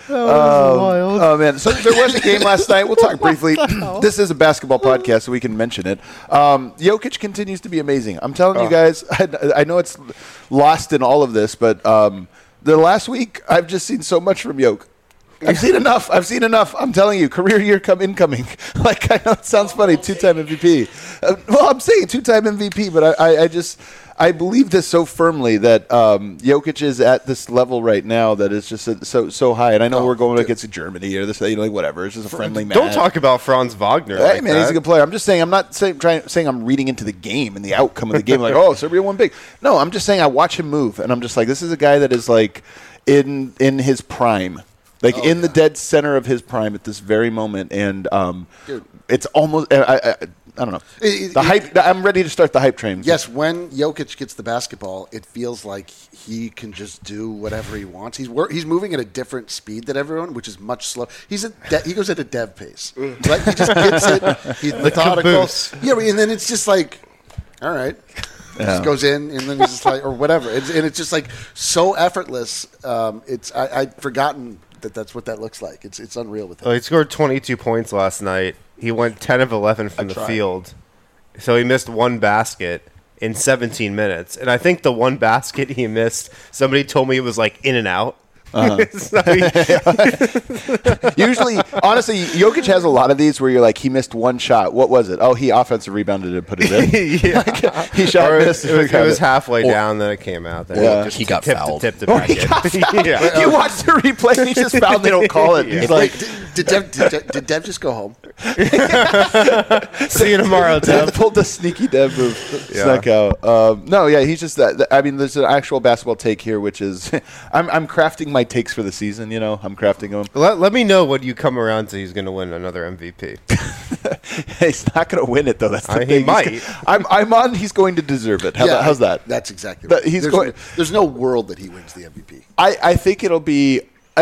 Oh, man. So there was a game last night. We'll talk briefly. This is a basketball podcast, so we can mention it. Jokic continues to be amazing. I'm telling you guys, I know it's lost in all of this, but the last week, I've just seen so much from Jokic. I've seen enough. I'm telling you, career year incoming. Like, I know it sounds funny, 2-time MVP. Well, I'm saying 2-time MVP, but I believe this so firmly that Jokic is at this level right now that is just so high. And I know we're going against Germany or this, like whatever. It's just a friendly match. Don't talk about Franz Wagner. Hey, man, he's a good player. I'm just saying, I'm not saying I'm reading into the game and the outcome of the game. Like, oh, Serbia won big. No, I'm just saying I watch him move, and I'm just like, this is a guy that is like in his prime. Like, the dead center of his prime at this very moment. And it's almost I don't know. Hype. I'm ready to start the hype train. Yes, when Jokic gets the basketball, it feels like he can just do whatever he wants. He's moving at a different speed than everyone, which is much slower. He goes at a dev pace. Right? He just gets it. He's methodical. Yeah, and then it's just like, all right. Just goes in, and then he's just like, or whatever. And it's just like so effortless. I'd forgotten that's what that looks like. It's unreal with him. Well, he scored 22 points last night. He went 10 of 11 from the field. So he missed 1 basket in 17 minutes. And I think the 1 basket he missed, somebody told me it was like in and out. Usually, honestly, Jokic has a lot of these where you're like, he missed 1 shot. What was it? Oh, he offensive rebounded and put it in. He shot missed. It was halfway down, then it came out. Then he got fouled. Tipped it back in. You watch the replay, and he's just fouled. They don't call it. He's like, did Dev just go home? See you tomorrow, Dev. Pulled the sneaky Dev move. Snuck out. He's just that. I mean, there's an actual basketball take here, which is I'm crafting my takes for the season. You know, I'm crafting them. Let me know when you come around to he's going to win another MVP. He's not going to win it though. That's the thing. He might. I'm on. He's going to deserve it. How's that? That's exactly right. There's no world that he wins the MVP. I think it'll be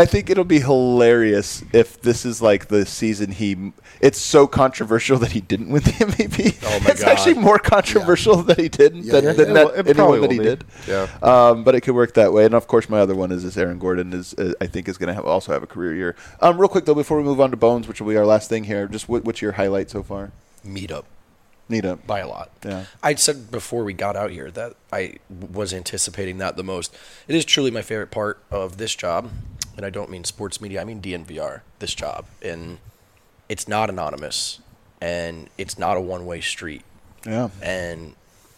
hilarious if this is like the season it's so controversial that he didn't win the MVP. Oh my it's God. Actually more controversial that he didn't than anyone that he did. Yeah. But it could work that way. And of course, my other one is Aaron Gordon I think is going to also have a career year. Real quick though, before we move on to Bones, which will be our last thing here, just what's your highlight so far? Meetup. By a lot. Yeah. I said before we got out here that I was anticipating that the most. It is truly my favorite part of this job. And I don't mean sports media, I mean DNVR, this job. And it's not anonymous, and it's not a one-way street. Yeah. And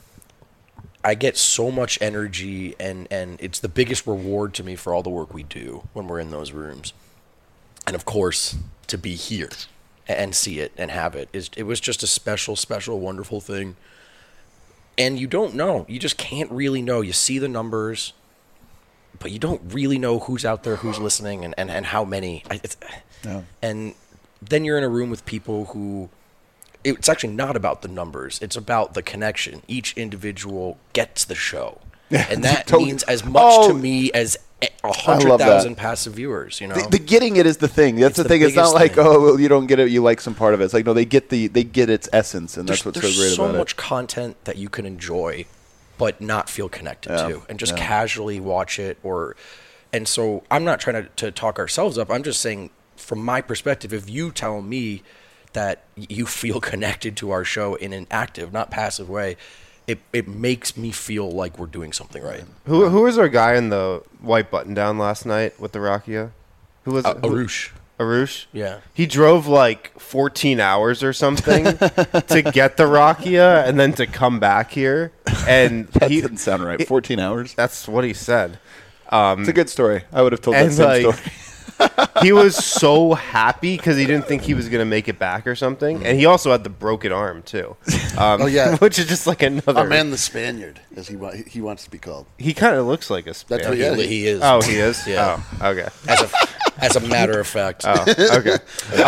I get so much energy, and it's the biggest reward to me for all the work we do when we're in those rooms. And, of course, to be here and see it and have it. It was just a special, special, wonderful thing. And you don't know. You just can't really know. You see the numbers, but you don't really know who's out there, who's listening, and how many. And then you're in a room with people who, it's actually not about the numbers. It's about the connection. Each individual gets the show. And that means as much to me as 100,000 passive viewers, you know. The getting it is the thing. That's the thing. It's not like, well, you don't get it, you like some part of it. It's like, no, they get its essence, and that's what's so great about it. There's so much content that you can enjoy but not feel connected to, and just casually watch it. And so I'm not trying to talk ourselves up. I'm just saying, from my perspective, if you tell me that you feel connected to our show in an active, not passive way, it makes me feel like we're doing something right. Who was our guy in the white button down last night with the Rakia? Who was it? Arush. Arush? Yeah. He drove like 14 hours or something to get the Rakia and then to come back here. And That didn't sound right. 14 hours? That's what he said. It's a good story. I would have told that And same like, story. he was so happy because he didn't think he was going to make it back or something. And he also had the broken arm, too. yeah. Which is just like another. Our man, the Spaniard, as he wants to be called. He kind of looks like a Spaniard. That's what He is. Oh, he is? Yeah. Oh, okay. As a matter of fact. Oh, okay.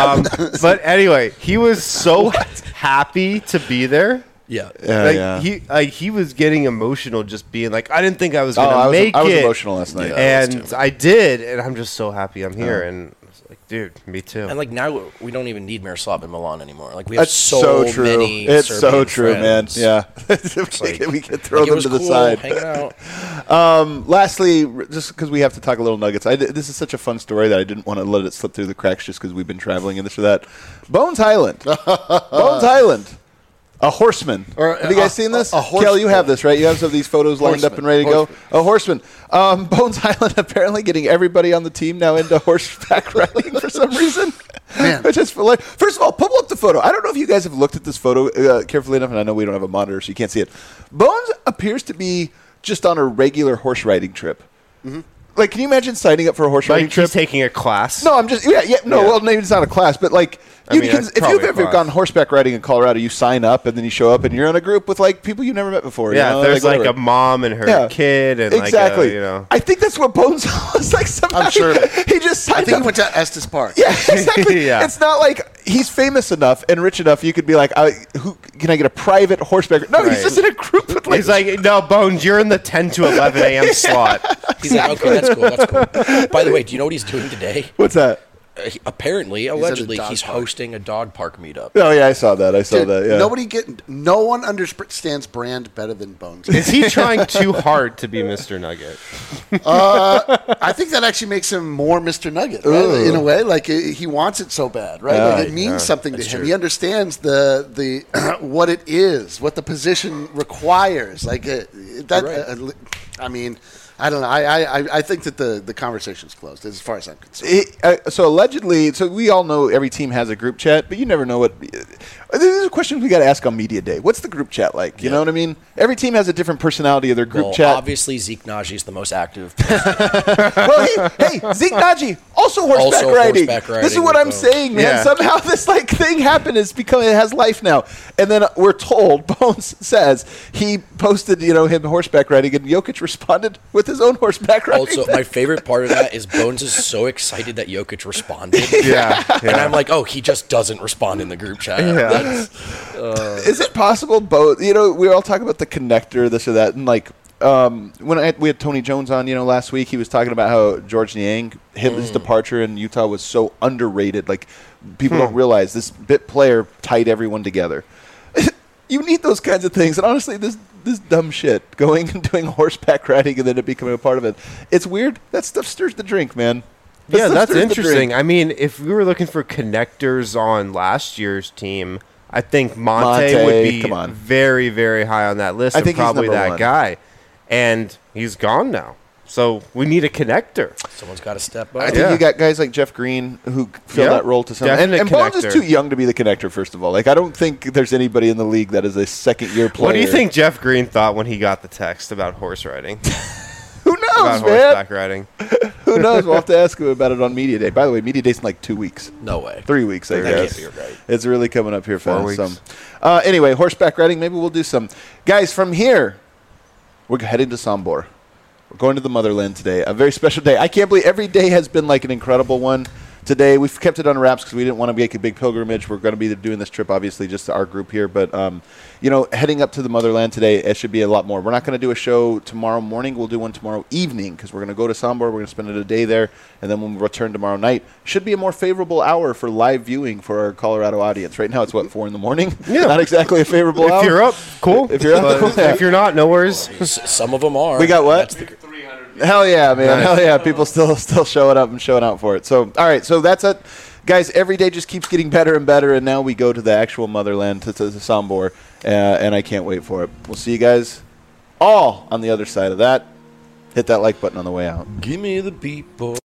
But anyway, he was so happy to be there. Yeah. He was getting emotional just being like, I didn't think I was going to make it. I was emotional last night. And I did, and I'm just so happy I'm here. And I was like, dude, me too. And like now we don't even need Miroslav in Milan anymore. Like we have That's so true. many. It's Serbian so true, friends. man. Yeah. Like, we can throw like, it them was to the cool side. hanging out. Lastly, just because we have to talk a little Nuggets, this is such a fun story that I didn't want to let it slip through the cracks just because we've been traveling and this or that. Bones Highland. Bones Highland. A horseman. Have you guys seen this? Kel, you have this, right? You have some of these photos lined up and ready to go. A horseman. Bones Highland apparently getting everybody on the team now into horseback riding for some reason. Man. Which is first of all, pull up the photo. I don't know if you guys have looked at this photo carefully enough, and I know we don't have a monitor, so you can't see it. Bones appears to be just on a regular horse riding trip. Mm-hmm. Like, can you imagine signing up for a horse riding trip? He's taking a class. No, I'm just well, maybe it's not a class, but like if you've ever gone horseback riding in Colorado, you sign up and then you show up and you're in a group with like people you never met before. Yeah, you know? there's like a mom and her kid and exactly. Like I think that's what Bones was like. Somehow I'm sure he just signed I think up. he went to Estes Park. Yeah, exactly. Yeah. It's not like he's famous enough and rich enough. You could be like, who can I get a private horseback? No, he's just in a group with he's like, no, Bones, you're in the 10 to 11 a.m. slot. He's like, okay, that's cool. That's cool. By the way, do you know what he's doing today? What's that? Allegedly, he's hosting a dog park meetup. Oh yeah, I saw that. Yeah. No one understands brand better than Bones. Is he trying too hard to be Mr. Nugget? I think that actually makes him more Mr. Nugget, right? In a way. Like he wants it so bad, right? Like it means something to him. true. He understands the what it is, what the position requires. Like that. I mean, I don't know. I think that the conversation's closed as far as I'm concerned. So allegedly, we all know every team has a group chat, but you never know what. This is a question we got to ask on media day. What's the group chat like? You know what I mean? Every team has a different personality of their group chat. Obviously, Zeke Naji is the most active. Well, hey, Zeke Naji also horseback riding. This is what I'm saying, man. Yeah. Somehow this like thing happened. It has life now. And then we're told, Bones says he posted, him horseback riding, and Jokic responded with his own horseback riding. Also, my favorite part of that is Bones is so excited that Jokic responded. Yeah. And I'm like, oh, he just doesn't respond in the group chat. Yeah. Is it possible both? We all talk about the connector, this or that, and like when we had Tony Jones on, last week, he was talking about how George Niang, his departure in Utah was so underrated. Like people don't realize this bit player tied everyone together. You need those kinds of things, and honestly, this dumb shit, going and doing horseback riding and then it becoming a part of it, it's weird. That stuff stirs the drink, man. That's interesting. I mean, if we were looking for connectors on last year's team, I think Monte would be very, very high on that list. I think probably that one guy. And he's gone now. So we need a connector. Someone's got to step up. I think you got guys like Jeff Green who fill that role to some extent. And Bones is too young to be the connector, first of all. Like, I don't think there's anybody in the league that is a second-year player. What do you think Jeff Green thought when he got the text about horse riding? Who knows, about horseback riding? Who knows? We'll have to ask him about it on Media Day. By the way, Media Day's in like 2 weeks. No way. 3 weeks, I guess. That can't be right. It's really coming up here 4 fast. weeks. Anyway, horseback riding, maybe we'll do some. Guys, from here, we're heading to Sombor. We're going to the motherland today. A very special day. I can't believe every day has been like an incredible one. Today, we've kept it on wraps because we didn't want to make a big pilgrimage. We're going to be doing this trip, obviously, just to our group here. But, heading up to the motherland today, it should be a lot more. We're not going to do a show tomorrow morning. We'll do one tomorrow evening because we're going to go to Sombor. We're going to spend a day there. And then when we return tomorrow night, should be a more favorable hour for live viewing for our Colorado audience. Right now, it's, 4 in the morning? Yeah. Not exactly a favorable hour. If you're up, cool. If you're up, if you're not, no worries. Some of them are. We got what? Hell yeah, man. Nice. Hell yeah. People still showing up and showing out for it. So, all right. So that's it. Guys, every day just keeps getting better and better, and now we go to the actual motherland, to Sombor, and I can't wait for it. We'll see you guys all on the other side of that. Hit that like button on the way out. Give me the beat, boy.